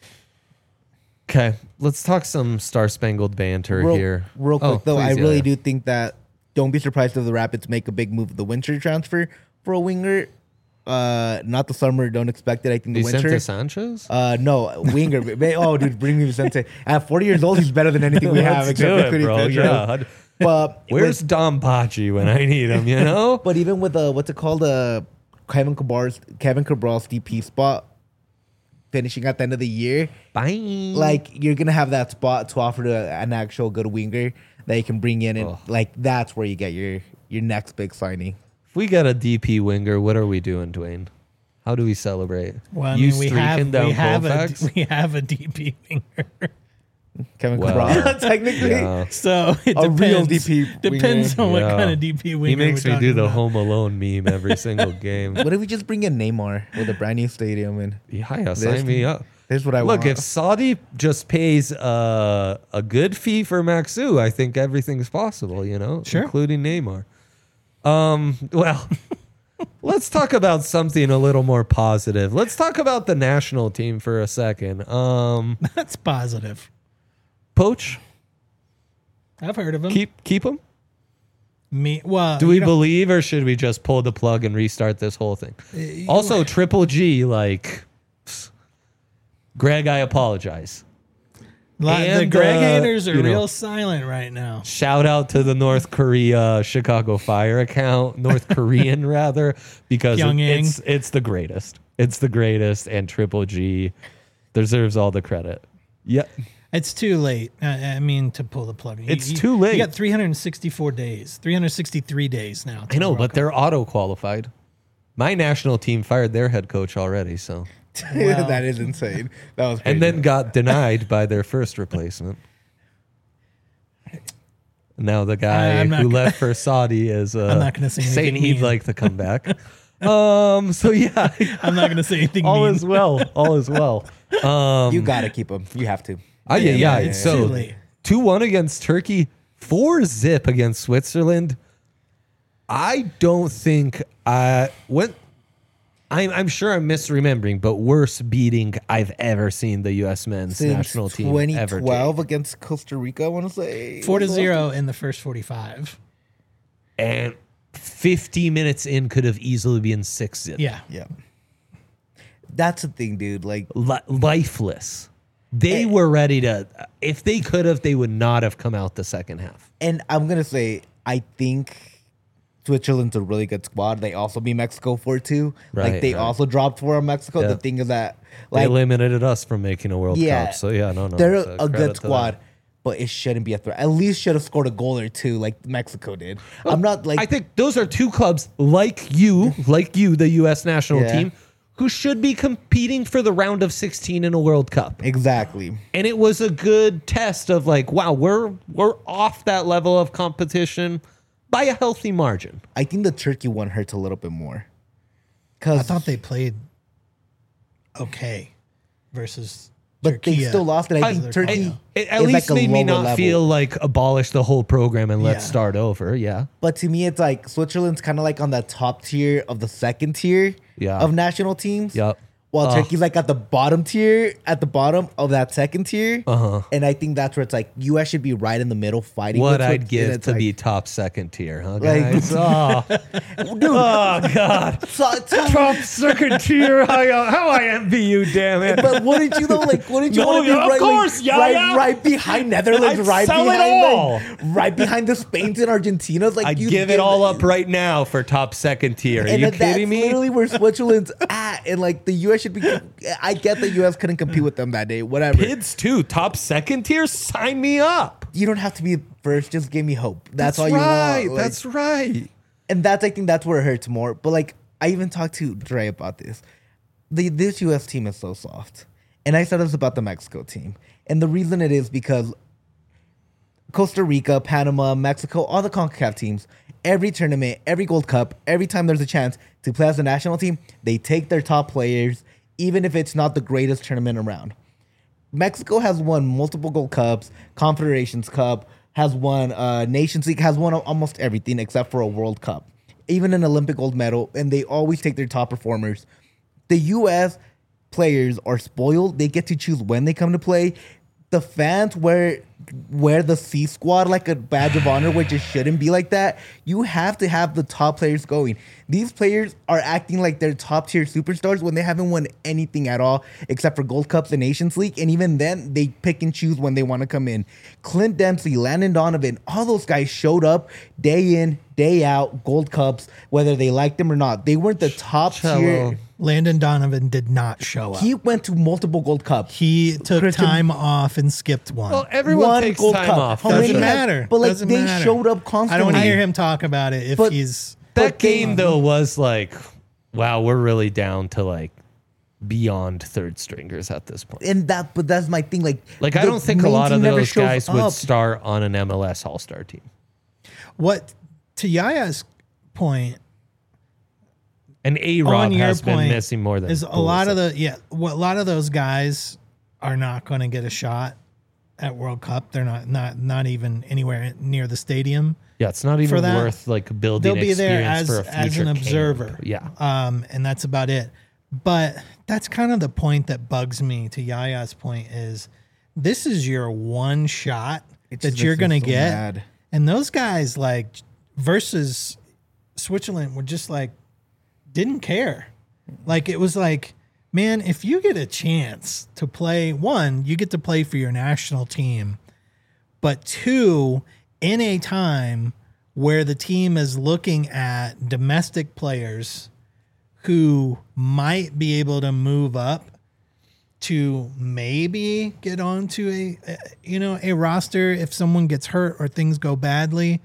Okay, let's talk some Star Spangled Banter here. Real quick, Oh, though, I please, really yeah. do think that don't be surprised if the Rapids make a big move with the winter transfer for a winger. Not the summer. Don't expect it. I think the Vicente winter. Sanchez? No, winger. Oh, dude, bring me Vicente. At 40 years old, he's better than anything we have. Let's do except it, Vicente bro. Pedro. Yeah. But Where's Dom Pachi when I need him, But even with what's it called, Kevin Cabral's DP spot finishing at the end of the year, Bye. like you're gonna have that spot to offer to an actual good winger that you can bring in, and like that's where you get your next big signing. If we get a DP winger, what are we doing, Dwayne? How do we celebrate? Well, I You mean, we streaking down have a Colfax? DP winger. Kevin Well, Cabral, technically. Yeah. So it A depends. real DP Depends winger. on what Yeah. kind of DP winger He makes we're me do talking the about. Home Alone meme every single game. What if we just bring in Neymar with a brand new stadium and Yeah, sign me up. here's what I Look, want. if Saudi just pays a good fee for Maxu, I think everything's possible, Sure. including Neymar. Well, let's talk about something a little more positive. Let's talk about the national team for a second. That's positive. Poach, I've heard of him. keep him. Well, Do we you know, believe, or should we just pull the plug and restart this whole thing? Also, Triple G, like, Greg, I apologize. the and, Greg haters are you know, real silent right now. Shout out to the North Korea Chicago Fire account, North Korean rather, because Pyongyang. it's the greatest. It's the greatest, and Triple G deserves all the credit. Yeah. It's too late. I mean, to pull the plug. It's too late. You got 364 days, 363 days now. I know, but they're auto-qualified. My national team fired their head coach already, so. Wow. That is insane. That was crazy. And then got denied by their first replacement. Now the guy I'm not who gonna- left for Saudi is I'm not gonna say saying anything he'd mean. like to come back. So yeah, I'm not going to say anything all mean. is well. All is well. you gotta keep him. You have to. Yeah. it's So too late. 2-1 against Turkey, 4-0 against Switzerland. I don't think I'm sure I'm misremembering, but worst beating I've ever seen the U.S. men's Since national team ever take. 2012 against Costa Rica, I want to say 4-0 in the first 45. And 50 minutes in could have easily been 6-0. Yeah. Yeah, that's the thing, dude. Like, Lifeless. They were ready to. If they could have, they would not have come out the second half. and I'm gonna say, I think Switzerland's a really good squad. They also beat Mexico 4-2. Right, Like they right. also dropped 4 on Mexico. Yeah. The thing is that, They like, eliminated us from making a World yeah, Cup. So yeah, no. they're it's a credit good to squad. them. But it shouldn't be a threat. At least should have scored a goal or two, like Mexico did. I'm not like I think those are two clubs like you, the U.S. national Yeah. team, who should be competing for the round of 16 in a World Cup. exactly. And it was a good test of like, wow, we're off that level of competition by a healthy margin. I think the Turkey one hurts a little bit more. I Cause thought they played okay versus but they Turkey. still lost it. I think Turkey It at is least like a made me lower not level. feel like abolish the whole program and let's Yeah. start over. Yeah. But to me, it's like Switzerland's kind of like on the top tier of the second tier Yeah. of national teams. Yep. While Ugh. Turkey's like at the bottom tier, at the bottom of that second tier. Uh-huh. And I think that's where it's like US should be right in the middle fighting. What with I'd and give it's to like, be top second tier, huh, Like- guys? Oh, dude. God. so- Top second tier. How I envy you, damn it. but wouldn't you though? Like, wouldn't you No, want to be of right, course, like, yeah, right, yeah. right behind Netherlands, I'd right sell it behind, all. like, right behind the Spains and Argentinas? Like, I'd you give it all up right now for top second tier. Are And you that's kidding me? literally where Switzerland's at, and like the U.S. should be. I get the U.S. couldn't compete with them that day. Whatever. Kids too. Top second tier. Sign me up. You don't have to be first. Just give me hope. That's all right. you want. Like, That's right. and I think that's where it hurts more. But like I even talked to Dre about this. This U.S. team is so soft, and I said this about the Mexico team, and the reason it is because Costa Rica, Panama, Mexico, all the CONCACAF teams, every tournament, every Gold Cup, every time there's a chance to play as a national team, they take their top players, even if it's not the greatest tournament around. Mexico has won multiple Gold Cups, Confederations Cup, has won Nations League, has won almost everything except for a World Cup, even an Olympic gold medal, and they always take their top performers. The U.S. players are spoiled. They get to choose when they come to play. The fans wear the C squad like a badge of honor, which it shouldn't be like that. You have to have the top players going. These players are acting like they're top tier superstars when they haven't won anything at all except for Gold Cups and Nations League. And even then, they pick and choose when they want to come in. Clint Dempsey, Landon Donovan, all those guys showed up day in, day out, Gold Cups, whether they liked them or not. They weren't the top tier. Landon Donovan did not show up. He went to multiple Gold Cups. He took Christian- time off and skipped one. Well, everyone One takes Gold time Cup. off. How doesn't many Doesn't it? have- matter. but, like, Doesn't they matter. showed up I don't constantly. want to hear him talk about it if But- he's That game though was like, wow, we're really down to like beyond third stringers at this point. But that's my thing. Like Like I the don't think a main lot of team never those shows guys would up. start on an MLS All-Star team. what to Yaya's point. And On A-Rod your has been point, missing more than is a lot of Pulisic. a lot of those guys are not going to get a shot at World Cup. They're not even anywhere near the stadium. Yeah, it's not for even that. worth like building They'll be there experience as for a future an camp. observer. Yeah. And that's about it. But that's kind of the point that bugs me. To Yaya's point is, this is your one shot It that just you're makes me going to so get, mad. and those guys like versus Switzerland were just like didn't care. Like it was like, man, if you get a chance to play, one, you get to play for your national team, but two, in a time where the team is looking at domestic players who might be able to move up to maybe get onto a roster if someone gets hurt or things go badly,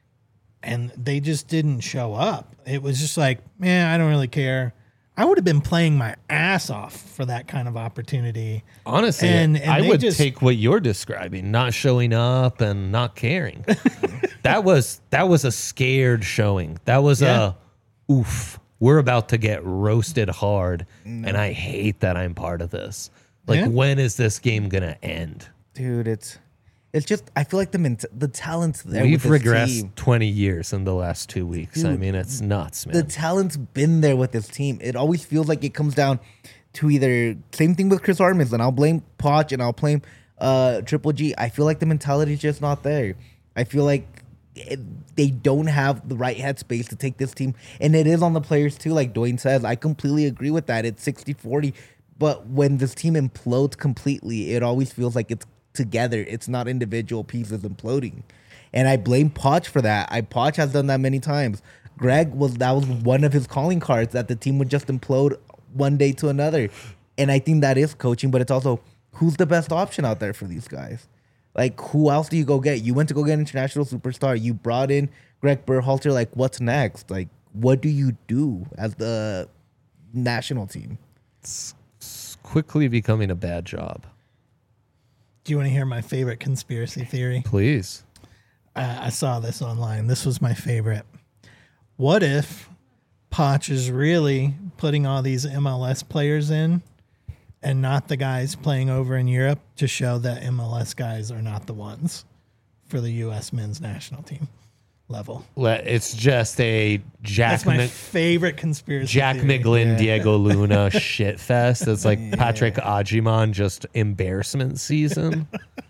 and they just didn't show up. It was just like, man, I don't really care. I would have been playing my ass off for that kind of opportunity. Honestly, And I they would just- take what you're describing, not showing up and not caring. that was a scared showing. That was Yeah. a oof. We're about to get roasted hard, and I hate that I'm part of this. Like, Yeah. when is this game gonna end? Dude, it's just, I feel like the talent's there. We've with this regressed team. 20 years in the last 2 weeks. I Dude, mean, it's nuts, man. The talent's been there with this team. It always feels like it comes down to either same thing with Chris Armas, and I'll blame Poch and I'll blame Triple G. I feel like the mentality's just not there. I feel like they don't have the right headspace to take this team, and it is on the players too. Like Dwayne says, I completely agree with that. It's 60-40, but when this team implodes completely, it always feels like it's together. It's not individual pieces imploding, and I blame Poch for that. Poch has done that many times. That was one of his calling cards, that the team would just implode one day to another, and I think that is coaching. But it's also, who's the best option out there for these guys? Like, who else do you go get? You went to go get an international superstar. You brought in Greg Berhalter. Like, what's next? Like, what do you do as the national team? It's quickly becoming a bad job. Do you want to hear my favorite conspiracy theory? Please. I saw this online. This was my favorite. What if Poch is really putting all these MLS players in and not the guys playing over in Europe to show that MLS guys are not the ones for the U.S. men's national team level? It's just a That's my favorite conspiracy Jack theory. Miglin, Diego Luna shit fest. It's like Patrick Ajiman, just embarrassment season.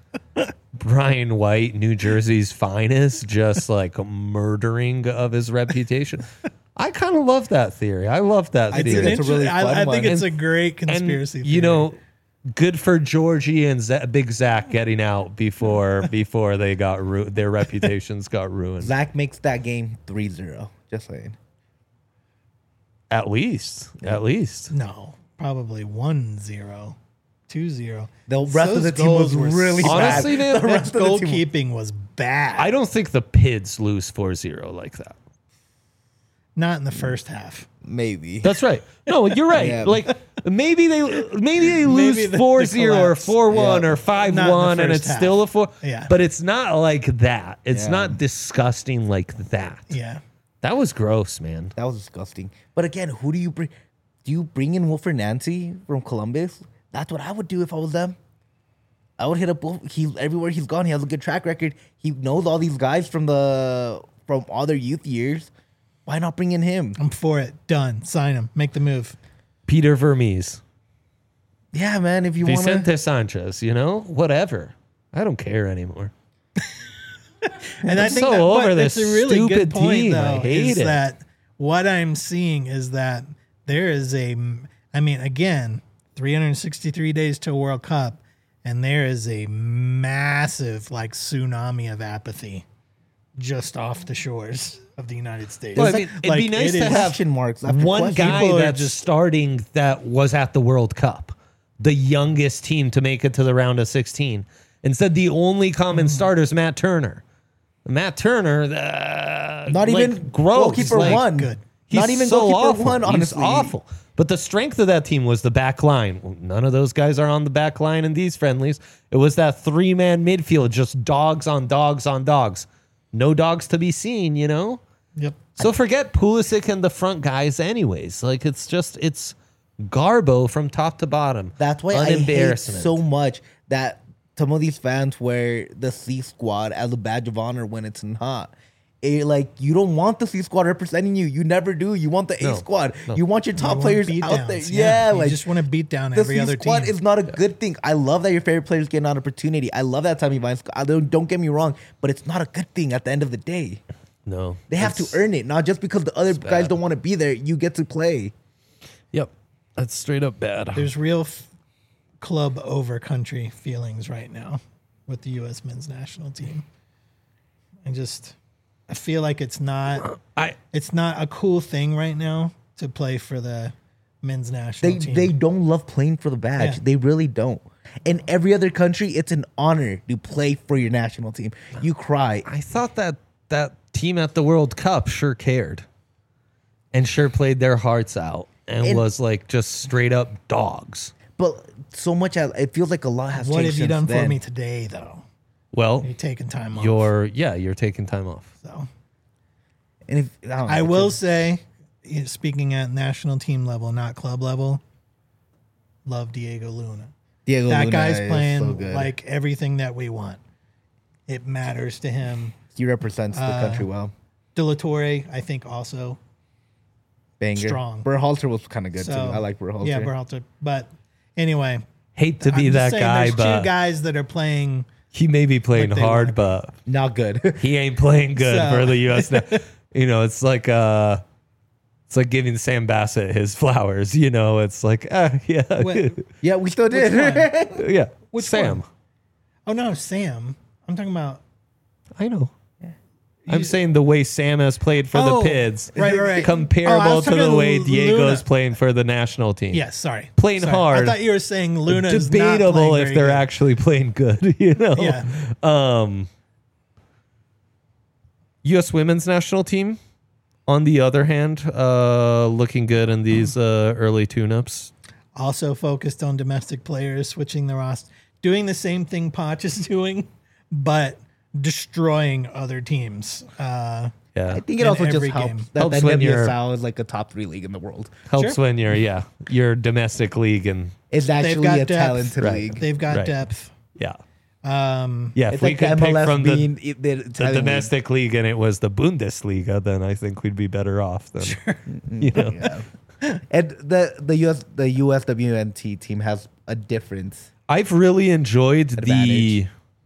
Brian White, New Jersey's finest, just like murdering of his reputation. I kind of love that theory. I love that I think theory. that's a really fun I one. think it's And- a great conspiracy and, theory. you know, good for Georgie and Big Zach getting out before they got their reputations got ruined. Zach makes that game 3-0. Just saying. At least. No, probably 1-0, 2-0. The rest of Those the team was goals were really bad. Honestly, man, The That rest of the team- goalkeeping was bad. I don't think the Pids lose 4-0 like that. Not in the first half. Maybe. That's right. No, you're right. Yeah. Like maybe they lose the 4-0 or collapse. 4-1 Yeah. or 5-1 and first it's half. still a 4. Yeah. But it's not like that. It's Yeah. not disgusting like that. Yeah. That was gross, man. That was disgusting. But again, who do you bring? Do you bring in Wilfred Nancy from Columbus? That's what I would do if I was them. I would hit up everywhere he's gone. He has a good track record. He knows all these guys from all their youth years. Why not bring in him? I'm for it. Done. Sign him. Make the move. Peter Vermees. Yeah, man. If you want Vicente to, Sanchez, whatever. I don't care anymore. And I think so that, over but this it's a really stupid good point, team. I though, hate is it. that what I'm seeing is that there is again, 363 days to a World Cup, and there is a massive tsunami of apathy just off the shores of the United States. Well, I mean, it'd be nice it to is- have question marks after one question. guy People are that's just- starting that was at the World Cup, the youngest team to make it to the round of 16. Instead, the only common starter is Matt Turner. Matt Turner, not even goalkeeper one. Good. He's Not even so goalkeeper awful. one. Honestly, He's awful. But the strength of that team was the back line. Well, none of those guys are on the back line in these friendlies. It was that 3-man midfield, just dogs on dogs on dogs. No dogs to be seen, Yep. So forget Pulisic and the front guys anyways. Like, it's Garbo from top to bottom. That's why I hate Unembarrassment. so much that some of these fans wear the C squad as a badge of honor when it's not. You don't want the C squad representing you. You never do. You want the A No, squad. no. You want your top players out Beatdowns, there. Yeah, you just want to beat down the every C other squad team. is not a good thing. I love that your favorite players get an opportunity. I love that Tommy Vines. Don't get me wrong, but it's not a good thing at the end of the day. No. They have to earn it, not just because the other guys don't want to be there. You get to play. Yep. That's straight up bad. There's real club over country feelings right now with the U.S. men's national team. I feel like it's not a cool thing right now to play for the men's national team. They don't love playing for the badge. Yeah. They really don't. In every other country, it's an honor to play for your national team. You cry. I thought that team at the World Cup sure cared and sure played their hearts out and was like just straight up dogs. But so much, it feels like a lot has What changed have you done since then. for me today, though? Well, You're taking time off. you're taking time off. So And if, I don't know, I it's will just- say, speaking at national team level, not club level, love Diego Luna. Diego That Luna guy's is playing so good. like everything that we want. It matters to him. He represents the country well. De La Torre, I think, also. Banger. strong. Berhalter was kind of good So, too. I like Berhalter. Yeah, Berhalter. But anyway, Hate to be I'm just that saying guy, there's but two guys that are playing. he may be playing But they hard, want- but Not good. he ain't playing good So- for the U.S. It's like giving Sam Bassett his flowers. It's like yeah, What- yeah, we still did. yeah. Which Sam, one? Oh no, Sam. I'm talking about. I know. I'm saying the way Sam has played for Oh, the Pids, right. comparable Oh, I was to the talking way Diego's Luna. playing for the national team. Yes, sorry. Playing Sorry. hard. I thought you were saying Luna is not Debatable playing if very they're good. actually playing good. Yeah. U.S. women's national team, on the other hand, looking good in these early tune-ups. Also focused on domestic players, switching the roster, doing the same thing Poch is doing, but destroying other teams. Yeah, I think it In also just every helps game. that Helps the when you're- NWSL is like a top 3 league in the world. helps Sure. when your domestic league and It's actually got a depth. talented Right. league. They've got Right. depth. yeah. Um, Yeah, if It's we like could the pick MLS from being the the Italian league. domestic league and it was the Bundesliga, then I think we'd be better off. Than, Yeah. And the USWNT team has a difference. I've really enjoyed Advantage.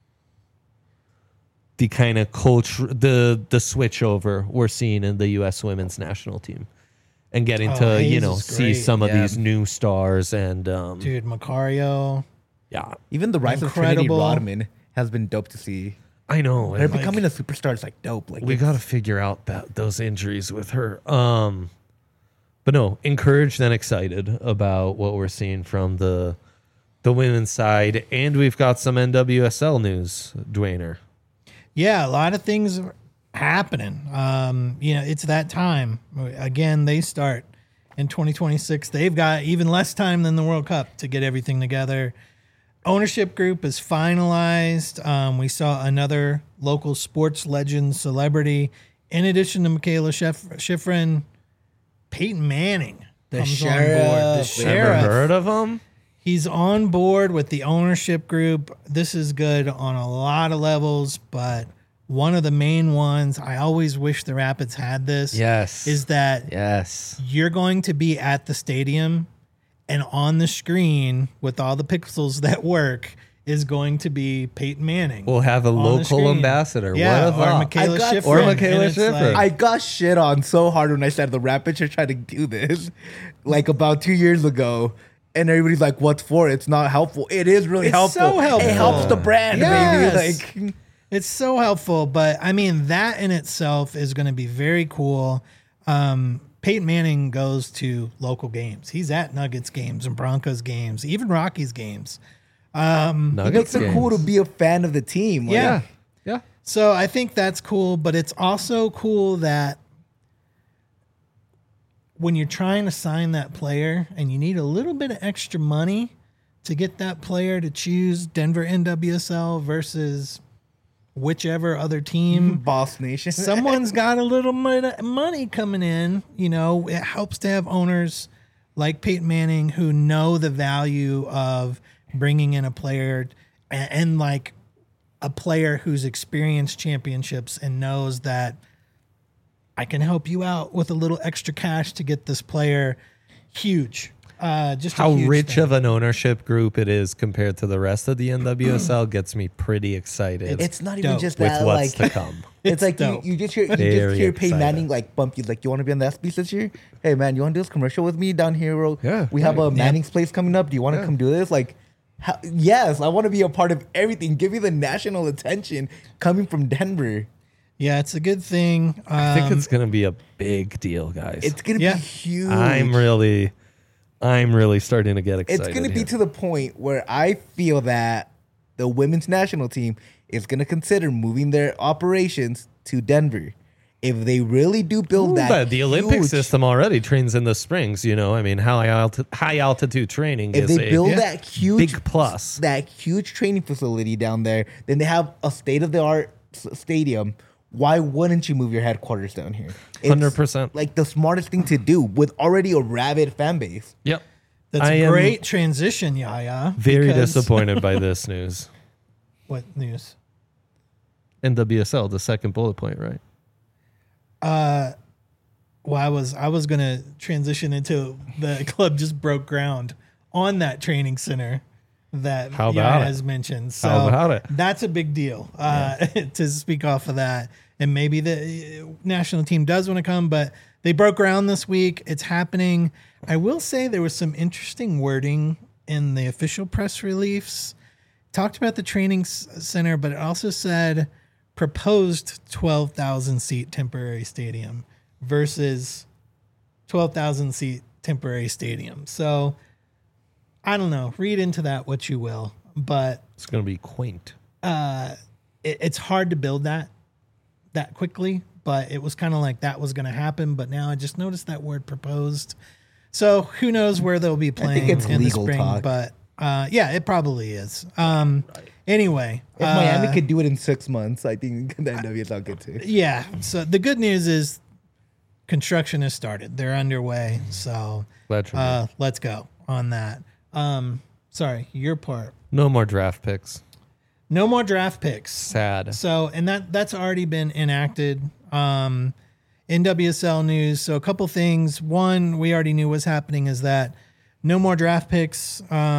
the kind of culture, the switch over we're seeing in the U.S. women's national team, and getting Oh, to Hayes is see great. some of Yeah. these new stars and dude, Macario. yeah, Even the rise of Trinity Incredible. Rodman has been dope to see. I know. Her and, like, becoming a superstar is like dope. Like we it's- got to figure out those injuries with her. But no, encouraged and excited about what we're seeing from the women's side, and we've got some NWSL news, Dwayner. Yeah, a lot of things are happening. It's that time. Again, they start in 2026. They've got even less time than the World Cup to get everything together. Ownership group is finalized. We saw another local sports legend celebrity. In addition to Michaela Schifrin, Peyton Manning comes sheriff. on board. The Ever Ever sheriff. heard of them? He's on board with the ownership group. This is good on a lot of levels, but one of the main ones, I always wish the Rapids had this, Yes. is that Yes. you're going to be at the stadium and on the screen with all the pixels that work is going to be Peyton Manning. We'll have a on the local screen. ambassador. Yeah, What a or thought. Michaela I got- Schifrin. Or Michaela and it's Schifrin. I got shit on so hard when I said the Rapids are trying to do this, like about 2 years ago. And everybody's like, "What's for? It's not helpful." It is really It's helpful. so helpful. It helps the brand, Yes. baby. Like, It's so helpful, but I mean that in itself is going to be very cool. Peyton Manning goes to local games. He's at Nuggets games and Broncos games, even Rockies games. it Nuggets makes it cool to games. be a fan of the team. Like, Yeah. Yeah. So I think that's cool, but it's also cool that when you're trying to sign that player and you need a little bit of extra money to get that player to choose Denver NWSL versus whichever other team, Boss Nation. someone's got a little money coming in. It helps to have owners like Peyton Manning who know the value of bringing in a player and like a player who's experienced championships and knows that I can help you out with a little extra cash to get this player huge. Just a How huge rich thing. of an ownership group it is compared to the rest of the NWSL gets me pretty excited It's not even dope. just with that. what's Like, to come. it's like dope. you just hear Very Peyton excited. Manning like bump you like, "You want to be on the SBs this year? Hey man, you want to do this commercial with me down here? Yeah, we have a right. Manning's place coming up. Do you want to come do this? Like, yes, I want to be a part of everything. Give me the national attention coming from Denver. Yeah, it's a good thing. I think it's going to be a big deal, guys. It's gonna Yeah. be huge. I'm really starting to get excited. It's gonna be here. to the point where I feel that the women's national team is gonna consider moving their operations to Denver. If they really do build that, But the Olympic huge- system already trains in the springs. You know, I mean, high altitude training if is they a build that huge big plus. that huge training facility down there, then they have a state of the art stadium. Why wouldn't you move your headquarters down here? It's 100%. like the smartest thing to do with already a rabid fan base. Yep. That's I a am great transition, Yaya. Very because- disappointed by this news. What news? NWSL, the second bullet point, right? Well, I was gonna transition into the club just broke ground on that training center that How about Yaya it? has mentioned. So How about it? That's a big deal to speak off of that. And maybe the national team does want to come, but they broke ground this week. It's happening. I will say there was some interesting wording in the official press release. Talked about the training center, but it also said proposed 12,000 seat temporary stadium versus 12,000 seat temporary stadium. So I don't know. Read into that what you will, but It's going to be quaint. it's hard to build that quickly. But it was kind of like that was going to happen. But now I just noticed that word proposed. So who knows where they'll be playing it's in the legal spring? talk. But yeah, it probably is. Anyway, If Miami could do it in 6 months, I think the NWSL could too. yeah. So the good news is construction has started. They're underway. So Glad for me. let's go on that. Sorry, your part. No more draft picks. No more draft picks. Sad. So, and that's already been enacted. NWSL news. So a couple things. One, we already knew was happening is that no more draft picks.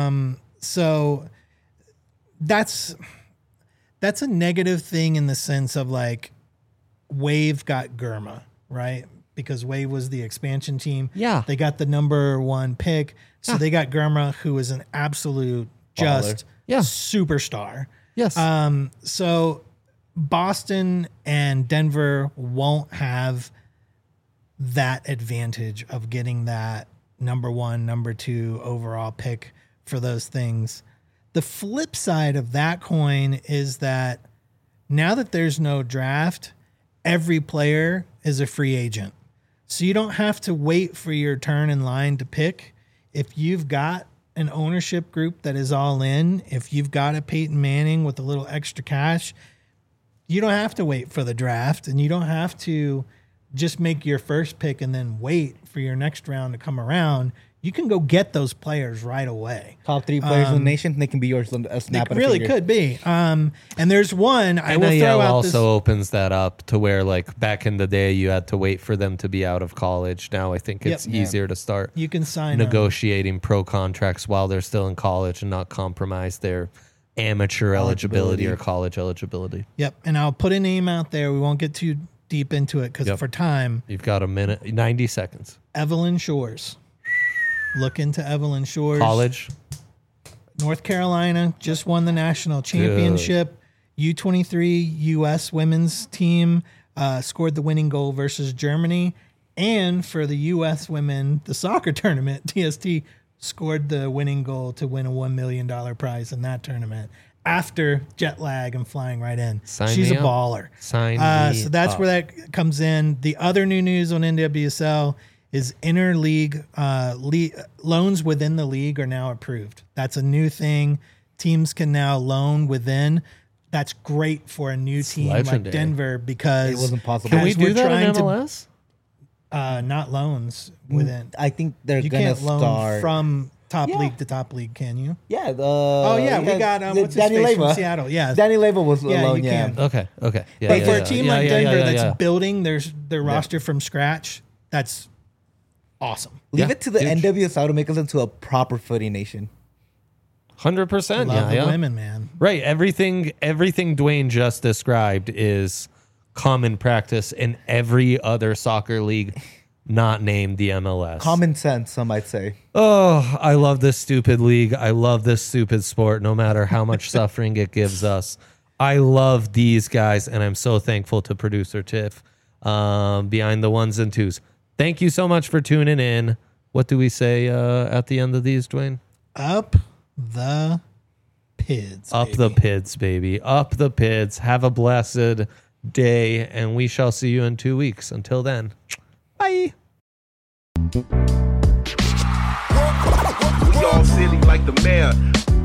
So that's a negative thing in the sense of like Wave got Gurma, right? Because Wave was the expansion team. Yeah. They got the number 1 pick. So they got Gurma, who is an absolute just Yeah. superstar. Yes. So Boston and Denver won't have that advantage of getting that number 1, number 2 overall pick for those things. The flip side of that coin is that now that there's no draft, every player is a free agent. So you don't have to wait for your turn in line to pick. If you've got an ownership group that is all in, if you've got a Peyton Manning with a little extra cash, you don't have to wait for the draft and you don't have to just make your first pick and then wait for your next round to come around. You can go get those players right away. Top 3 players in the nation, they can be yours. A snap It of a really finger. could be. And there's one I will NIL throw out also this. opens that up to where, like, back in the day, you had to wait for them to be out of college. Now I think it's Yep. easier to start You can sign them. negotiating pro contracts while they're still in college and not compromise their amateur eligibility or college eligibility. Yep. And I'll put a name out there. We won't get too deep into it because Yep. for time, You've got a minute, 90 seconds. Evelyn Shores. Look into Evelyn Shores. College. North Carolina just won the national championship. U23 U.S. women's team scored the winning goal versus Germany. And for the U.S. women, the soccer tournament, TST scored the winning goal to win a $1 million prize in that tournament after jet lag and flying right in. Sign She's me a up. baller. Sign me So that's up. where that comes in. The other new news on NWSL is interleague loans within the league are now approved. That's a new thing. Teams can now loan within. That's great for a new team like legendary. Denver because It wasn't possible. Can we as do we're that in trying to- MLS? not loans within. I think they're You gonna can't loan start from top Yeah. league to top league, can you? Yeah. Oh yeah, we got what's his Danny face Leva from Seattle. Yeah, Danny Leva was Yeah, alone. you Yeah. can. Okay. Okay. Yeah, but yeah, for yeah. a team Yeah, like yeah, Denver yeah, that's yeah. building their roster from scratch, that's awesome. Leave Yeah, it to the huge. NWSL to make us into a proper footy nation. 100%. Love Yeah. the women, man. Right. Everything Dwayne just described is common practice in every other soccer league not named the MLS. Common sense, some might say. Oh, I love this stupid league. I love this stupid sport, no matter how much suffering it gives us. I love these guys, and I'm so thankful to producer Tiff behind the ones and twos. Thank you so much for tuning in. What do we say at the end of these, Dwayne? Up the PIDs. Up the PIDs, baby. Up the PIDs. Have a blessed day, and we shall see you in 2 weeks. Until then, bye. We all silly like the mayor.